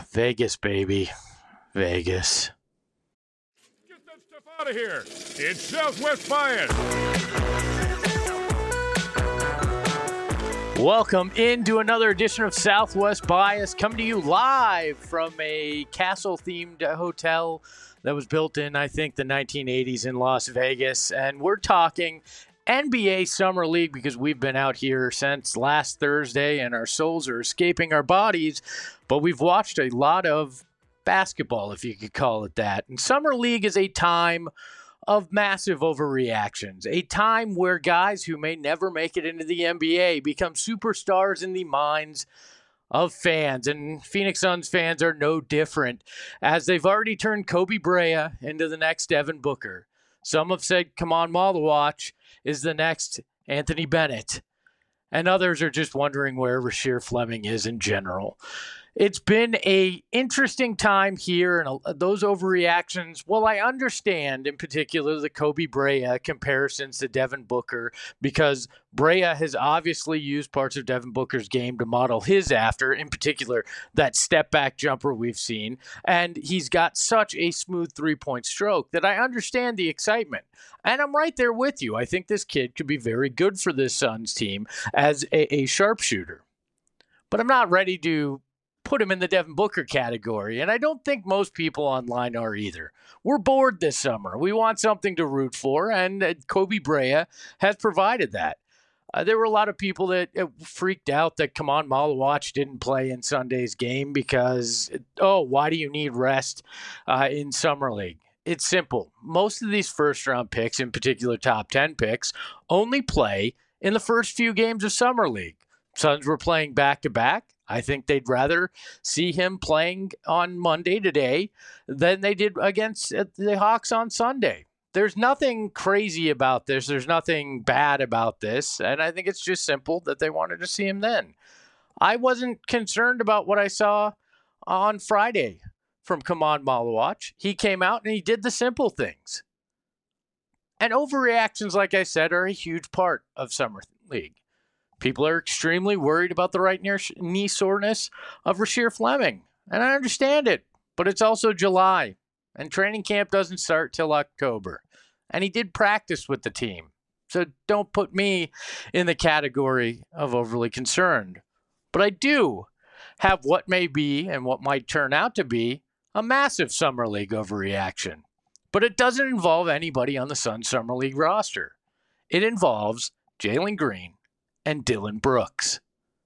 Vegas, baby. Vegas. Get that stuff out of here. It's Southwest Bias. Welcome into another edition of Southwest Bias, coming to you live from a castle-themed hotel that was built in, I think, the 1980s in Las Vegas. And we're talking NBA Summer League because we've been out here since last Thursday and our souls are escaping our bodies. But we've watched a lot of basketball, if you could call it that. And Summer League is a time of massive overreactions, a time where guys who may never make it into the NBA become superstars in the minds of fans. And Phoenix Suns fans are no different, as they've already turned Kobe Brea into the next Devin Booker. Some have said Kamon Malawach is the next Anthony Bennett. And others are just wondering where Rasheer Fleming is in general. It's been an interesting time here, and those overreactions, well, I understand in particular the Kobe Brea comparisons to Devin Booker, because Brea has obviously used parts of Devin Booker's game to model his after, in particular that step-back jumper we've seen, and he's got such a smooth three-point stroke that I understand the excitement. And I'm right there with you. I think this kid could be very good for this Suns team as a sharpshooter. But I'm not ready to put him in the Devin Booker category, and I don't think most people online are either. We're bored this summer. We want something to root for, and Kobe Brea has provided that. There were a lot of people that freaked out that Kamon Malawach didn't play in Sunday's game because, why do you need rest in Summer League? It's simple. Most of these first-round picks, in particular top 10 picks, only play in the first few games of Summer League. Suns were playing back-to-back. I think they'd rather see him playing on Monday today than they did against the Hawks on Sunday. There's nothing crazy about this. There's nothing bad about this. And I think it's just simple that they wanted to see him then. I wasn't concerned about what I saw on Friday from Kamon Malawach. He came out and he did the simple things. And overreactions, like I said, are a huge part of Summer League. People are extremely worried about the right knee soreness of Rasheer Fleming. And I understand it, but it's also July, and training camp doesn't start till October. And he did practice with the team. So don't put me in the category of overly concerned. But I do have what may be and what might turn out to be a massive Summer League overreaction. But it doesn't involve anybody on the Suns Summer League roster. It involves Jalen Green and Dillon Brooks.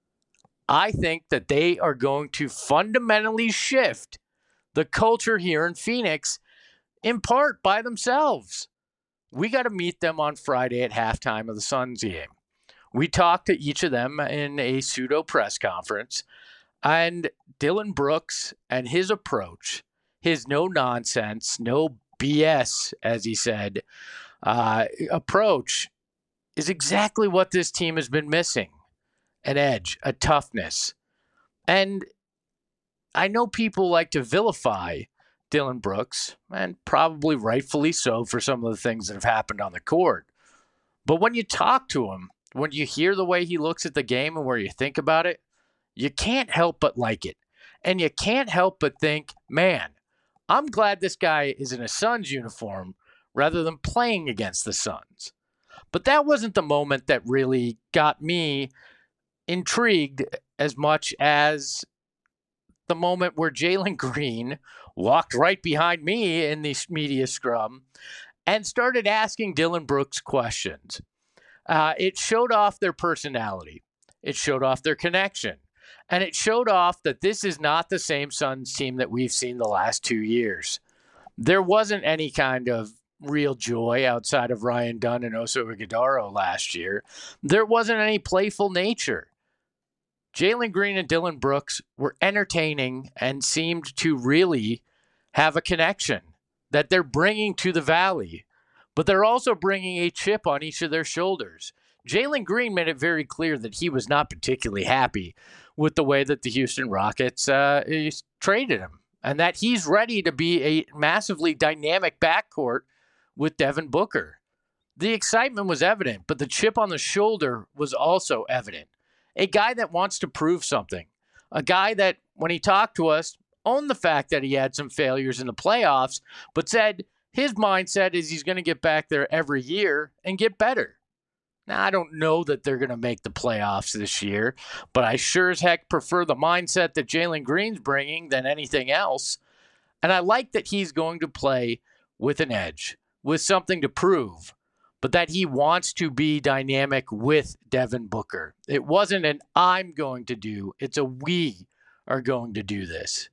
I think that they are going to fundamentally shift the culture here in Phoenix, in part by themselves. We got to meet them on Friday at halftime of the Suns game. We talked to each of them in a pseudo press conference, and Dillon Brooks and his approach, his no nonsense, no BS, as he said, approach is exactly what this team has been missing. An edge, a toughness. And I know people like to vilify Dillon Brooks, and probably rightfully so for some of the things that have happened on the court. But when you talk to him, when you hear the way he looks at the game and where you think about it, you can't help but like it. And you can't help but think, man, I'm glad this guy is in a Suns uniform rather than playing against the Suns. But that wasn't the moment that really got me intrigued as much as the moment where Jalen Green walked right behind me in the media scrum and started asking Dillon Brooks questions. It showed off their personality. It showed off their connection. And it showed off that this is not the same Suns team that we've seen the last 2 years. There wasn't any kind of real joy outside of Ryan Dunn and Oso Ighodaro last year. There wasn't any playful nature. Jalen Green and Dillon Brooks were entertaining and seemed to really have a connection that they're bringing to the Valley, but they're also bringing a chip on each of their shoulders. Jalen Green made it very clear that he was not particularly happy with the way that the Houston Rockets traded him, and that he's ready to be a massively dynamic backcourt with Devin Booker. The excitement was evident, but the chip on the shoulder was also evident. A guy that wants to prove something. A guy that, when he talked to us, owned the fact that he had some failures in the playoffs, but said his mindset is he's going to get back there every year and get better. Now, I don't know that they're going to make the playoffs this year, but I sure as heck prefer the mindset that Jalen Green's bringing than anything else. And I like that he's going to play with an edge, with something to prove, but that he wants to be dynamic with Devin Booker. It wasn't an I'm going to do, it's a we are going to do this.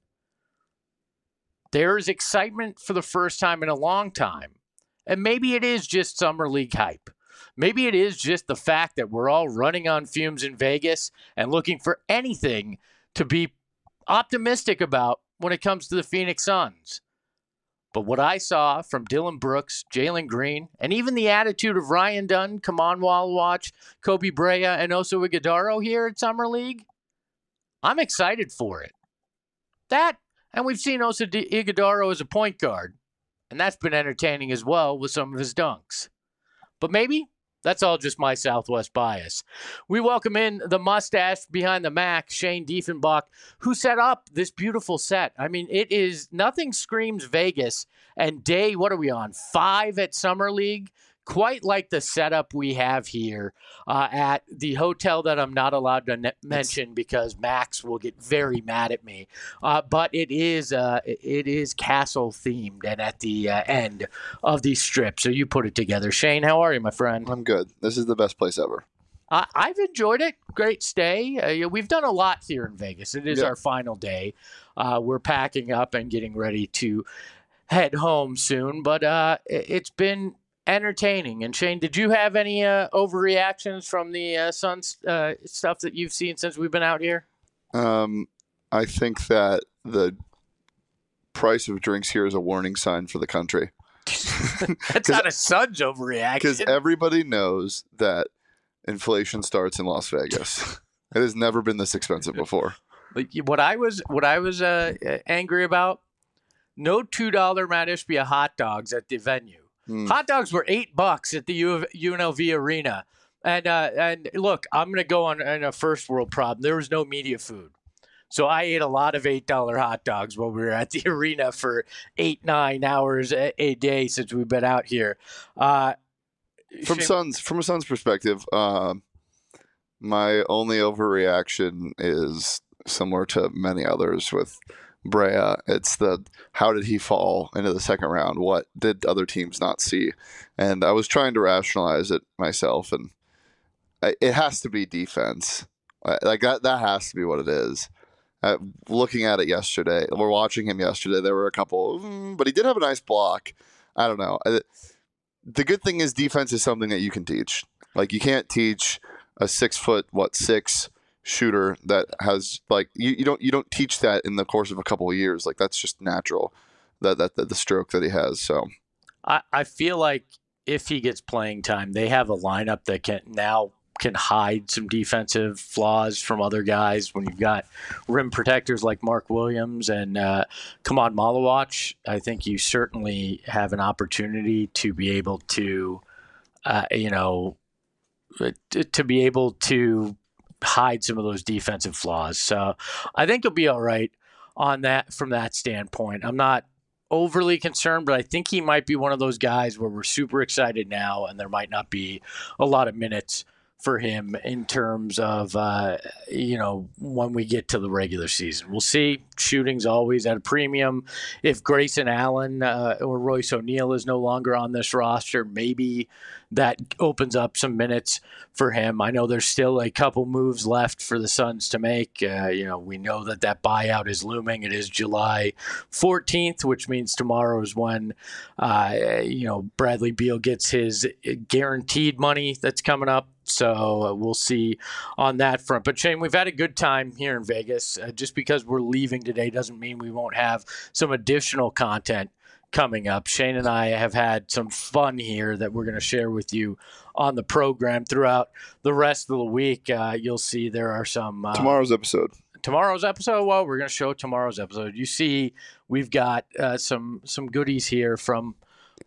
There is excitement for the first time in a long time. And maybe it is just Summer League hype. Maybe it is just the fact that we're all running on fumes in Vegas and looking for anything to be optimistic about when it comes to the Phoenix Suns. But what I saw from Dillon Brooks, Jalen Green, and even the attitude of Ryan Dunn, Kaman Wallawatch, Kobe Brea, and Oso Ighodaro here at Summer League, I'm excited for it. That, and we've seen Oso Ighodaro as a point guard, and that's been entertaining as well with some of his dunks. But maybe that's all just my Southwest bias. We welcome in the mustache behind the Mac, Shane Diefenbach, who set up this beautiful set. I mean, it is nothing screams Vegas. And day, what are we on? 5 at Summer League? Quite like the setup we have here at the hotel that I'm not allowed to mention because Max will get very mad at me. But it is castle themed and at the end of the strip. So you put it together. Shane, how are you, my friend? I'm good. This is the best place ever. I've enjoyed it. Great stay. We've done a lot here in Vegas. It is our final day. We're packing up and getting ready to head home soon. But it's been entertaining. And Shane, did you have any overreactions from the Suns stuff that you've seen since we've been out here? I think that the price of drinks here is a warning sign for the country. That's not a Suns overreaction. Because everybody knows that inflation starts in Las Vegas. It has never been this expensive before. But what I was angry about, no $2 Mount Ishbia hot dogs at the venue. Hot dogs were $8 at the UNLV Arena. And look, I'm going to go on a first world problem. There was no media food. So I ate a lot of $8 hot dogs while we were at the arena for 8-9 hours a day since we've been out here. From a Suns perspective, my only overreaction is similar to many others with Brea. It's the how did he fall into the second round? What did other teams not see? And I was trying to rationalize it myself, and it has to be defense. Like that has to be what it is. Looking at it yesterday, we're watching him yesterday. There were a couple, but he did have a nice block. I don't know. The good thing is defense is something that you can teach. Like you can't teach a 6'6" shooter that has like you don't teach that in the course of a couple of years. Like that's just natural. That the stroke that he has. So I feel like if he gets playing time, they have a lineup that can hide some defensive flaws from other guys. When you've got rim protectors like Mark Williams and Kaman Wallawatch, I think you certainly have an opportunity to be able to, to be able to hide some of those defensive flaws. So I think he'll be all right on that from that standpoint. I'm not overly concerned, but I think he might be one of those guys where we're super excited now and there might not be a lot of minutes for him in terms of, when we get to the regular season. We'll see. Shooting's always at a premium. If Grayson Allen or Royce O'Neal is no longer on this roster, maybe that opens up some minutes for him. I know there's still a couple moves left for the Suns to make. We know that buyout is looming. It is July 14th, which means tomorrow is when, Bradley Beal gets his guaranteed money that's coming up. So we'll see on that front. But Shane, we've had a good time here in Vegas. Just because we're leaving today doesn't mean we won't have some additional content coming up. Shane and I have had some fun here that we're going to share with you on the program throughout the rest of the week. You'll see there are some tomorrow's episode. Well, we're going to show tomorrow's episode. You see, we've got some goodies here from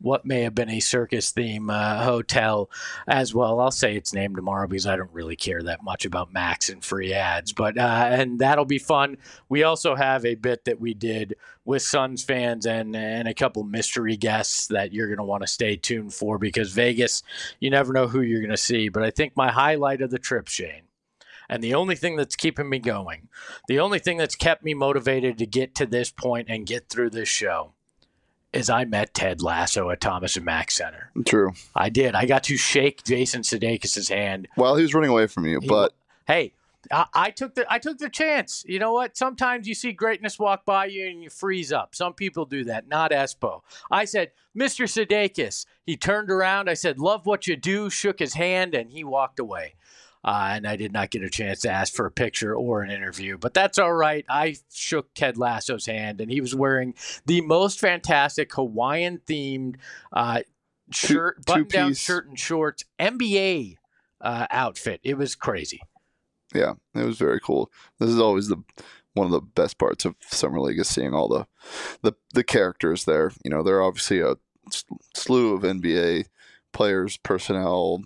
what may have been a circus theme hotel as well. I'll say its name tomorrow because I don't really care that much about Max and free ads, but and that'll be fun. We also have a bit that we did with Suns fans and a couple mystery guests that you're going to want to stay tuned for, because Vegas, you never know who you're going to see. But I think my highlight of the trip, Shane, and the only thing that's keeping me going, the only thing that's kept me motivated to get to this point and get through this show, is I met Ted Lasso at Thomas and Mack Center. True. I did. I got to shake Jason Sudeikis' hand while he was running away from you. Hey, I took the chance. You know what? Sometimes you see greatness walk by you and you freeze up. Some people do that. Not Espo. I said, Mr. Sudeikis. He turned around. I said, love what you do. Shook his hand, and he walked away. And I did not get a chance to ask for a picture or an interview, but that's all right. I shook Ted Lasso's hand, and he was wearing the most fantastic Hawaiian-themed shirt, button-down shirt and shorts, NBA outfit. It was crazy. Yeah, it was very cool. This is always one of the best parts of Summer League, is seeing all the characters there. You know, there are obviously a slew of NBA players, personnel,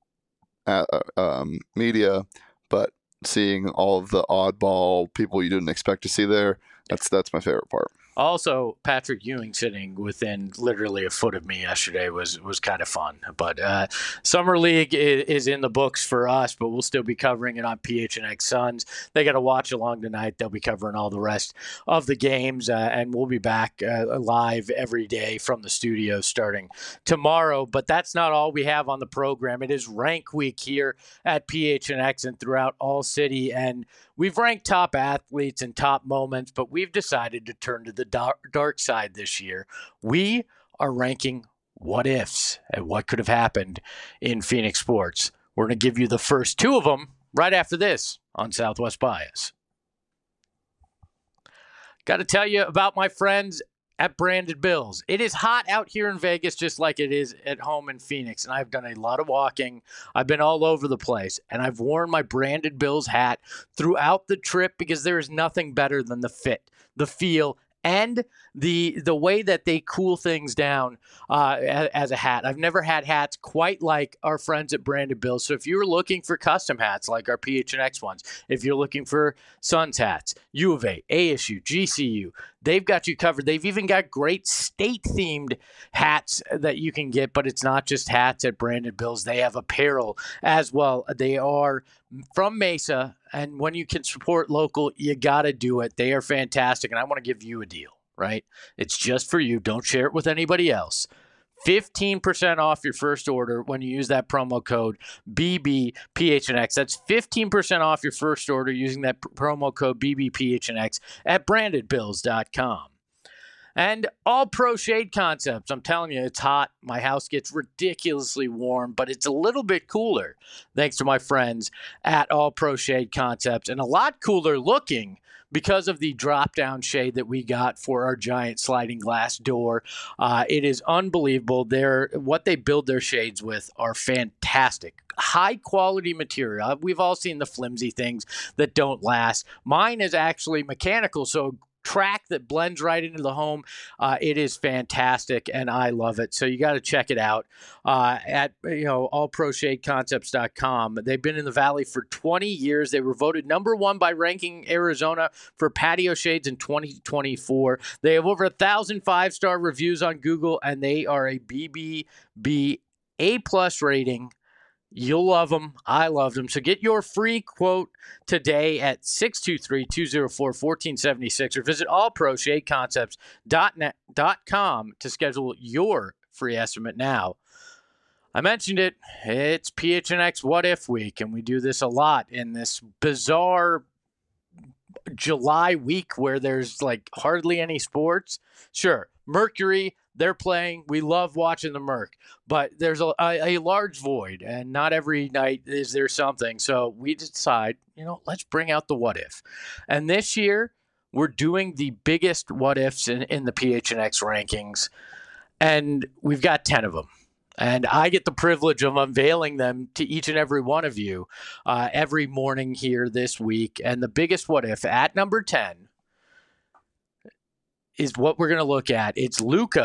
media, but seeing all of the oddball people you didn't expect to see there, that's my favorite part. Also, Patrick Ewing sitting within literally a foot of me yesterday was kind of fun. But Summer League is in the books for us, but we'll still be covering it on PHNX Suns. They got to watch along tonight. They'll be covering all the rest of the games, and we'll be back live every day from the studio starting tomorrow. But that's not all we have on the program. It is Rank Week here at PHNX and throughout all city, and we've ranked top athletes and top moments, but we've decided to turn to the dark side this year. We are ranking what ifs and what could have happened in Phoenix sports. We're going to give you the first two of them right after this on Southwest Bias. Got to tell you about my friends at Branded Bills. It is hot out here in Vegas, just like it is at home in Phoenix. And I've done a lot of walking. I've been all over the place. And I've worn my Branded Bills hat throughout the trip because there is nothing better than the fit, the feel, and the way that they cool things down as a hat. I've never had hats quite like our friends at Branded Bills. So if you're looking for custom hats like our PHNX ones, if you're looking for Suns hats, U of A, ASU, GCU, they've got you covered. They've even got great state-themed hats that you can get, but it's not just hats at Branded Bills. They have apparel as well. They are from Mesa, and when you can support local, you got to do it. They are fantastic, and I want to give you a deal, right? It's just for you. Don't share it with anybody else. 15% off your first order when you use that promo code BBPHNX. That's 15% off your first order using that promo code BBPHNX at brandedbills.com. And All Pro Shade Concepts. I'm telling you, it's hot. My house gets ridiculously warm, but it's a little bit cooler thanks to my friends at All Pro Shade Concepts, and a lot cooler looking because of the drop-down shade that we got for our giant sliding glass door. It is unbelievable. What they build their shades with are fantastic. High-quality material. We've all seen the flimsy things that don't last. Mine is actually mechanical, so track that blends right into the home. It is fantastic, and I love it. So you got to check it out at allproshadeconcepts.com. They've been in the Valley for 20 years. They were voted number one by Ranking Arizona for patio shades in 2024. They have over 1,000 5-star reviews on Google, and they are a BBB A+ rating. You'll love them. I love them. So get your free quote today at 623-204-1476 or visit allproshadeconcepts.com to schedule your free estimate now. I mentioned it. It's PHNX What If Week, and we do this a lot in this bizarre July week where there's like hardly any sports. Sure, Mercury, they're playing. We love watching the Merc, but there's a large void, and not every night is there something. So we decide, let's bring out the what if. And this year, we're doing the biggest what ifs in the PHNX rankings, and we've got 10 of them. And I get the privilege of unveiling them to each and every one of you every morning here this week. And the biggest what if at number 10 is what we're going to look at. It's Luka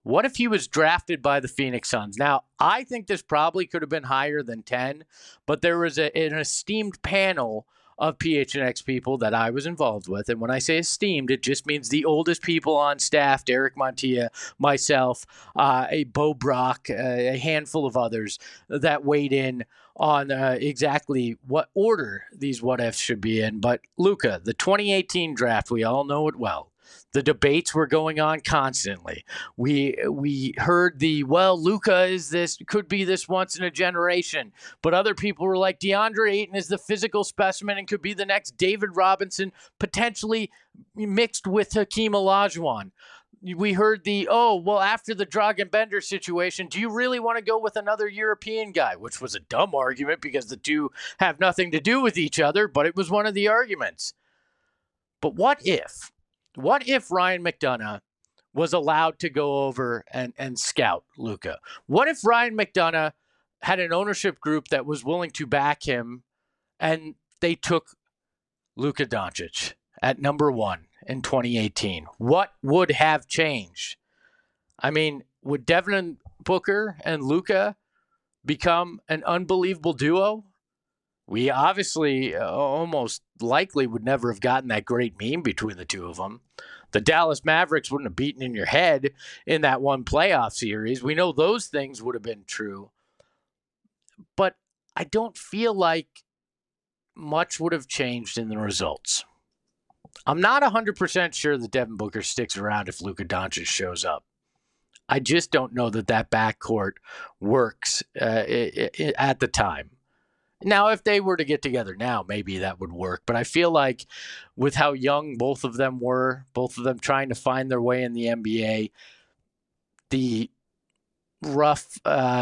What if he was drafted by the Phoenix Suns? Now, I think this probably could have been higher than 10, but there was an esteemed panel of PHNX people that I was involved with. And when I say esteemed, it just means the oldest people on staff, Derek Montilla, myself, a Bo Brock, a handful of others that weighed in on exactly what order these what-ifs should be in. But Luka, the 2018 draft, we all know it well. The debates were going on constantly. We heard Luka could be this once in a generation, but other people were like, DeAndre Ayton is the physical specimen and could be the next David Robinson, potentially mixed with Hakeem Olajuwon. We heard after the Dragan Bender situation, do you really want to go with another European guy? Which was a dumb argument because the two have nothing to do with each other, but it was one of the arguments. But what if Ryan McDonough was allowed to go over and scout Luka? What if Ryan McDonough had an ownership group that was willing to back him and they took Luka Doncic at number 1 in 2018? What would have changed? I mean, would Devin Booker and Luka become an unbelievable duo? We obviously almost likely would never have gotten that great meme between the two of them. The Dallas Mavericks wouldn't have beaten in your head in that one playoff series. We know those things would have been true. But I don't feel like much would have changed in the results. I'm not 100% sure that Devin Booker sticks around if Luka Doncic shows up. I just don't know that backcourt works at the time. Now, if they were to get together now, maybe that would work. But I feel like with how young both of them were, both of them trying to find their way in the NBA, the rough,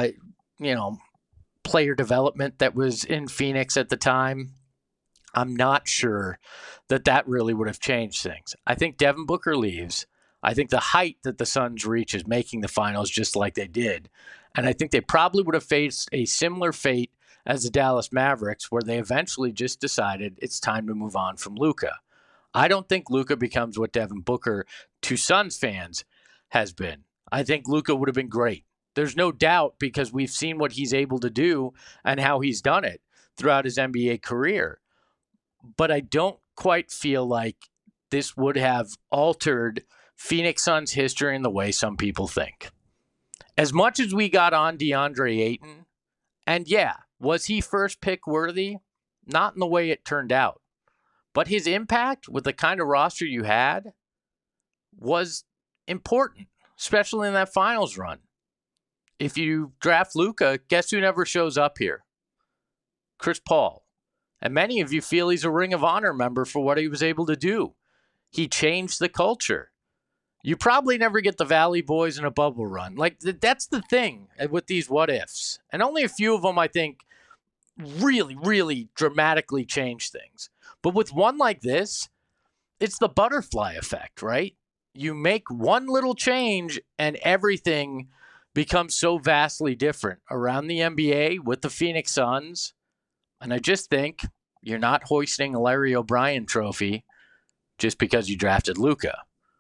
player development that was in Phoenix at the time, I'm not sure that really would have changed things. I think Devin Booker leaves. I think the height that the Suns reach is making the finals just like they did. And I think they probably would have faced a similar fate as the Dallas Mavericks, where they eventually just decided it's time to move on from Luka. I don't think Luka becomes what Devin Booker to Suns fans has been. I think Luka would have been great. There's no doubt, because we've seen what he's able to do and how he's done it throughout his NBA career. But I don't quite feel like this would have altered Phoenix Suns history in the way some people think. As much as we got on DeAndre Ayton, and yeah, was he first pick worthy? Not in the way it turned out. But his impact with the kind of roster you had was important, especially in that finals run. If you draft Luka, guess who never shows up here? Chris Paul. And many of you feel he's a Ring of Honor member for what he was able to do. He changed the culture. You probably never get the Valley Boys in a bubble run. Like, that's the thing with these what-ifs. And only a few of them, I think, really, really dramatically change things. But with one like this, it's the butterfly effect, right? You make one little change and everything becomes so vastly different around the NBA with the Phoenix Suns. And I just think you're not hoisting a Larry O'Brien trophy just because you drafted Luka.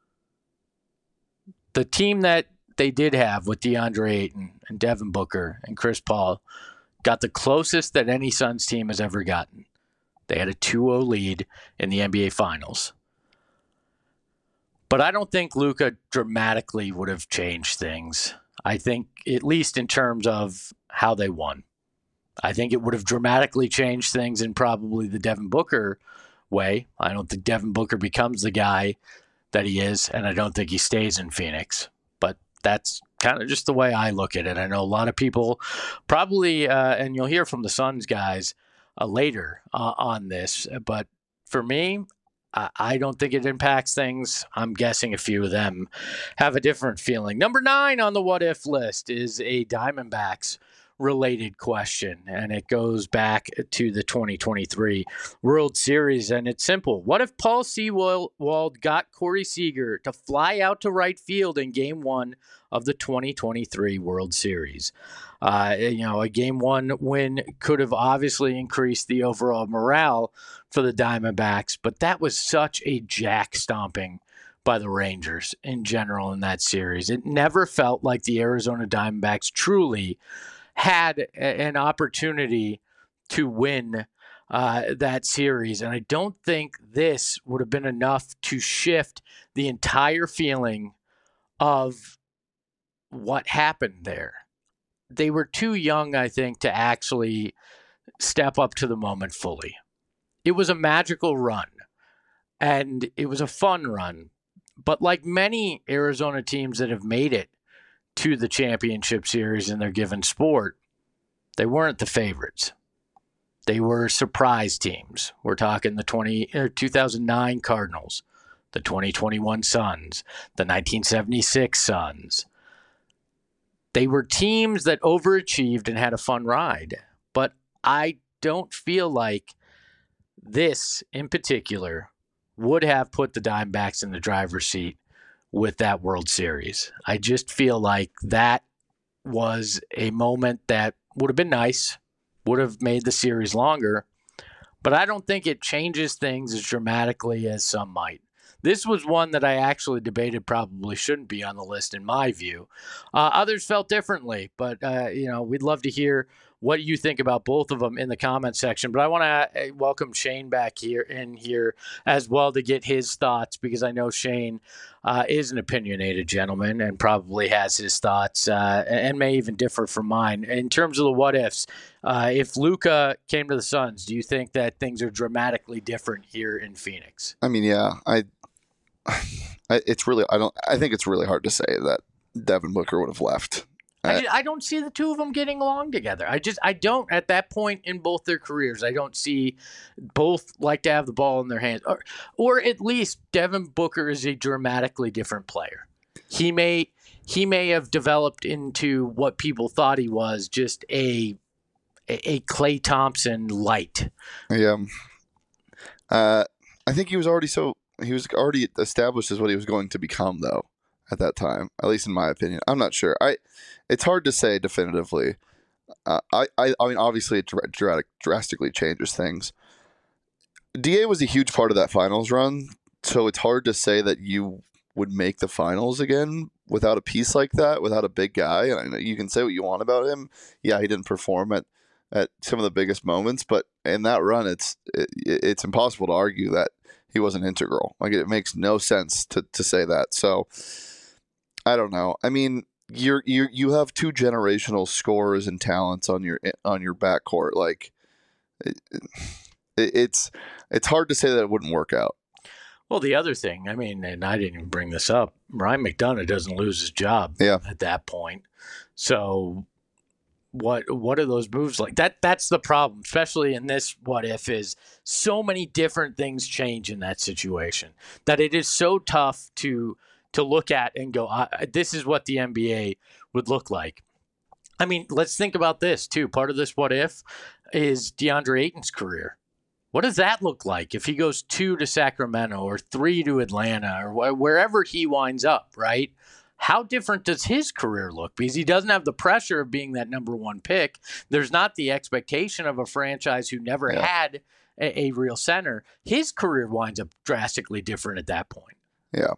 The team that they did have with DeAndre Ayton and Devin Booker and Chris Paul got the closest that any Suns team has ever gotten. They had a 2-0 lead in the NBA Finals. But I don't think Luka dramatically would have changed things. I think, at least in terms of how they won. I think it would have dramatically changed things in probably the Devin Booker way. I don't think Devin Booker becomes the guy that he is, and I don't think he stays in Phoenix. But that's kind of just the way I look at it. I know a lot of people probably, and you'll hear from the Suns guys later on this, but for me, I don't think it impacts things. I'm guessing a few of them have a different feeling. Number 9 on the what if list is a Diamondbacks related question, and it goes back to the 2023 World Series, and it's simple. What if Paul Sewald got Corey Seager to fly out to right field in Game 1 of the 2023 World Series? A Game 1 win could have obviously increased the overall morale for the Diamondbacks, but that was such a jack-stomping by the Rangers in general in that series. It never felt like the Arizona Diamondbacks truly had an opportunity to win that series. And I don't think this would have been enough to shift the entire feeling of what happened there. They were too young, I think, to actually step up to the moment fully. It was a magical run, and it was a fun run. But like many Arizona teams that have made it to the championship series in their given sport, they weren't the favorites. They were surprise teams. We're talking the 2009 Cardinals, the 2021 Suns, the 1976 Suns. They were teams that overachieved and had a fun ride. But I don't feel like this in particular would have put the Diamondbacks in the driver's seat with that World Series. I just feel like that was a moment that would have been nice, would have made the series longer, but I don't think it changes things as dramatically as some might. This was one that I actually debated probably shouldn't be on the list in my view. Others felt differently, but we'd love to hear what you think about both of them in the comment section. But I want to welcome Shane back here as well to get his thoughts, because I know Shane is an opinionated gentleman and probably has his thoughts and may even differ from mine. In terms of the what ifs, if Luka came to the Suns, do you think that things are dramatically different here in Phoenix? I mean, yeah, I think it's really hard to say that Devin Booker would have left. I don't see the two of them getting along together. I don't at that point in both their careers. I don't see both like to have the ball in their hands, or at least Devin Booker is a dramatically different player. He may have developed into what people thought he was, just a Klay Thompson light. Yeah, I think he was already established as what he was going to become, though. At that time, at least in my opinion. I'm not sure. It's hard to say definitively. I mean, obviously, it drastically changes things. DA was a huge part of that finals run, so it's hard to say that you would make the finals again without a piece like that, without a big guy. And I know you can say what you want about him. Yeah, he didn't perform at some of the biggest moments, but in that run, it's impossible to argue that he wasn't integral. Like, it makes no sense to say that. So I don't know. I mean, you have two generational scorers and talents on your backcourt. Like, it's hard to say that it wouldn't work out. Well, the other thing, I mean, and I didn't even bring this up, Ryan McDonough doesn't lose his job at that point. So what are those moves like? That's the problem, especially in this what if, is so many different things change in that situation that it is so tough to look at and go, this is what the NBA would look like. I mean, let's think about this too. Part of this what if is DeAndre Ayton's career. What does that look like if he goes 2 to Sacramento or 3 to Atlanta or wherever he winds up, right? How different does his career look? Because he doesn't have the pressure of being that number one pick. There's not the expectation of a franchise who never had a real center. His career winds up drastically different at that point. Yeah.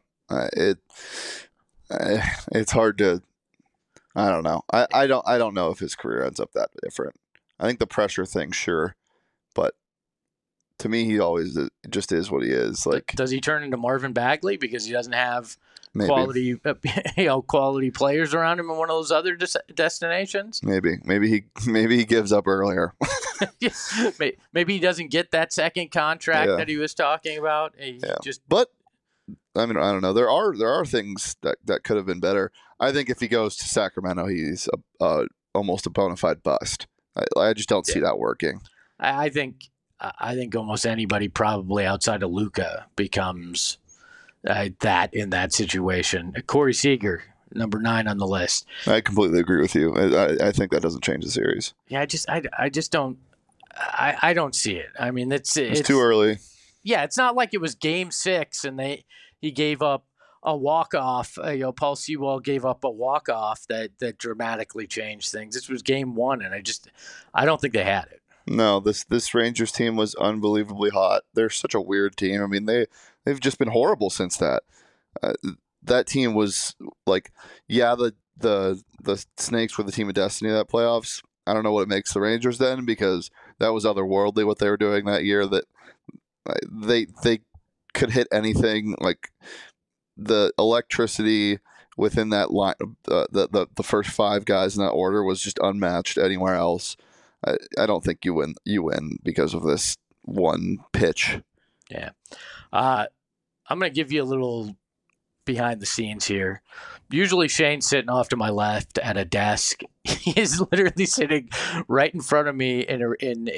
It's hard to. I don't know. I don't know if his career ends up that different. I think the pressure thing, sure, but to me, he always just is what he is. Like, does he turn into Marvin Bagley because he doesn't have maybe quality players around him in one of those other destinations? Maybe he gives up earlier. Maybe he doesn't get that second contract that he was talking about. But I mean, I don't know. There are things that could have been better. I think if he goes to Sacramento, he's almost a bona fide bust. I just don't see that working. I think almost anybody probably outside of Luka becomes that in that situation. Corey Seager, number 9 on the list. I completely agree with you. I think that doesn't change the series. Yeah, I just don't. I don't see it. I mean, it's too early. Yeah, it's not like it was Game 6 and he gave up a walk-off. Paul Sewell gave up a walk-off that dramatically changed things. This was Game 1, and I don't think they had it. No, this Rangers team was unbelievably hot. They're such a weird team. I mean, they've just been horrible since that. That team was like, yeah, the Snakes were the team of destiny of that playoffs. I don't know what it makes the Rangers then, because that was otherworldly what they were doing that year. That they could hit anything. Like the electricity within that line, the first five guys in that order was just unmatched anywhere else. I don't think you win because of this one pitch. Yeah. I'm going to give you a little behind the scenes here. Usually Shane's sitting off to my left at a desk. He is literally sitting right in front of me in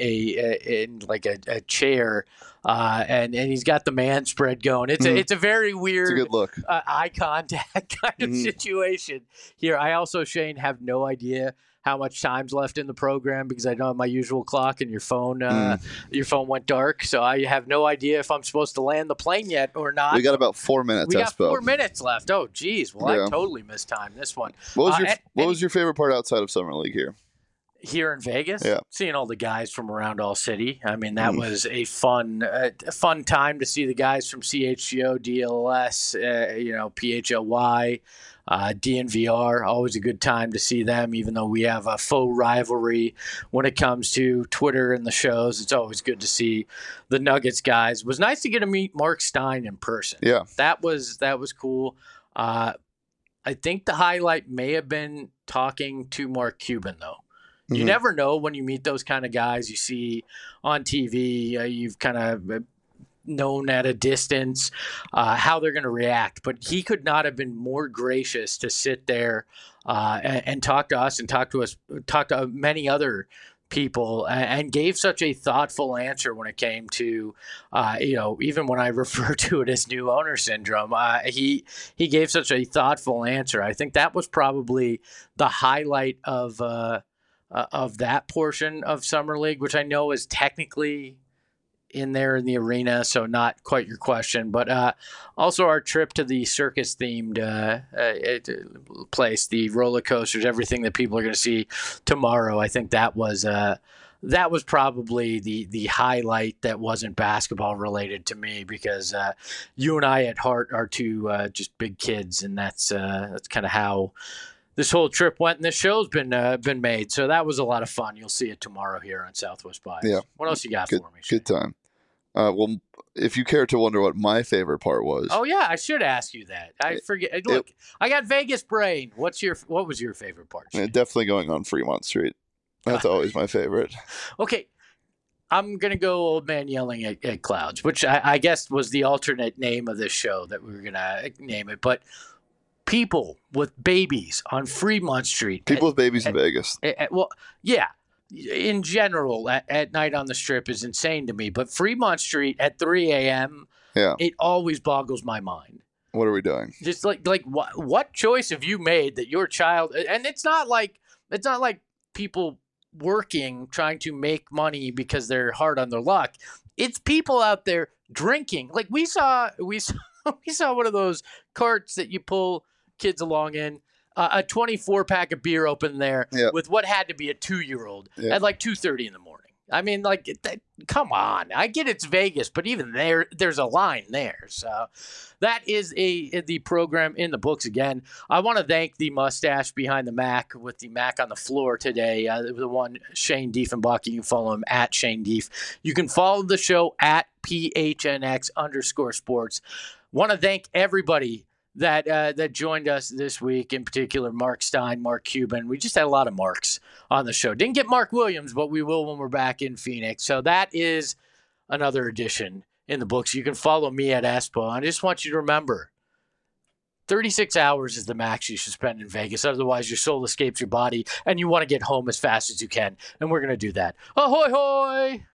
a chair, and he's got the man spread going. It's a very weird, it's a good look. Eye contact kind of situation here. I also, Shane, have no idea how much time's left in the program because I don't have my usual clock, and your phone went dark, so I have no idea if I'm supposed to land the plane yet or not. We got about 4 minutes. We got 4 minutes left. Oh, geez. Well, yeah. I totally mistimed this one. What was your favorite part outside of Summer League here? Here in Vegas? Yeah. Seeing all the guys from around all city. I mean, that was a fun time to see the guys from CHGO, DLS, PHLY, DNVR. Always a good time to see them, even though we have a faux rivalry when it comes to Twitter and the shows. It's always good to see the Nuggets guys. It was nice to get to meet Mark Stein in person. Yeah. That was cool. I think the highlight may have been talking to Mark Cuban, though. You never know when you meet those kind of guys you see on TV. You've kind of known at a distance how they're going to react. But he could not have been more gracious to sit there and talk to us and talk to many other people, and gave such a thoughtful answer when it came to, even when I refer to it as new owner syndrome, he gave such a thoughtful answer. I think that was probably the highlight of that portion of Summer League, which I know is technically in there in the arena, so not quite your question, but also our trip to the circus-themed place, the roller coasters, everything that people are going to see tomorrow. I think that was probably the highlight that wasn't basketball related to me, because you and I at heart are two just big kids, and that's kind of how this whole trip went, and this show's been made. So that was a lot of fun. You'll see it tomorrow here on Southwest Bias. Yeah. What else you got for me, Shane? Good time. Well, if you care to wonder what my favorite part was. Oh yeah, I should ask you that. I forget. Look, I got Vegas brain. What was your favorite part, Shane? Definitely going on Fremont Street. That's always my favorite. Okay. I'm going to go Old Man Yelling at Clouds, which I guess was the alternate name of this show that we were going to name it. But people with babies on Fremont Street. People with babies in Vegas. Well, yeah. In general, at night on the Strip is insane to me. But Fremont Street at 3 a.m., it always boggles my mind. What are we doing? Just like what choice have you made that your child? And it's not like people working trying to make money because they're hard on their luck. It's people out there drinking. Like we saw one of those carts that you pull kids along in, a 24-pack of beer open there with what had to be a 2-year-old at like 2:30 in the morning. I mean, like, come on. I get it's Vegas, but even there's a line there. So that is the program in the books again. I want to thank the mustache behind the Mac with the Mac on the floor today, the one Shane Diefenbach. You can follow him at Shane Dief. You can follow the show at PHNX_sports. Want to thank everybody that joined us this week, in particular Mark Stein, Mark Cuban. We just had a lot of Marks on the show. Didn't get Mark Williams, but we will when we're back in Phoenix. So that is another edition in the books. You can follow me at Espo. I just want you to remember, 36 hours is the max you should spend in Vegas. Otherwise, your soul escapes your body, and you want to get home as fast as you can. And we're going to do that. Ahoy, hoy!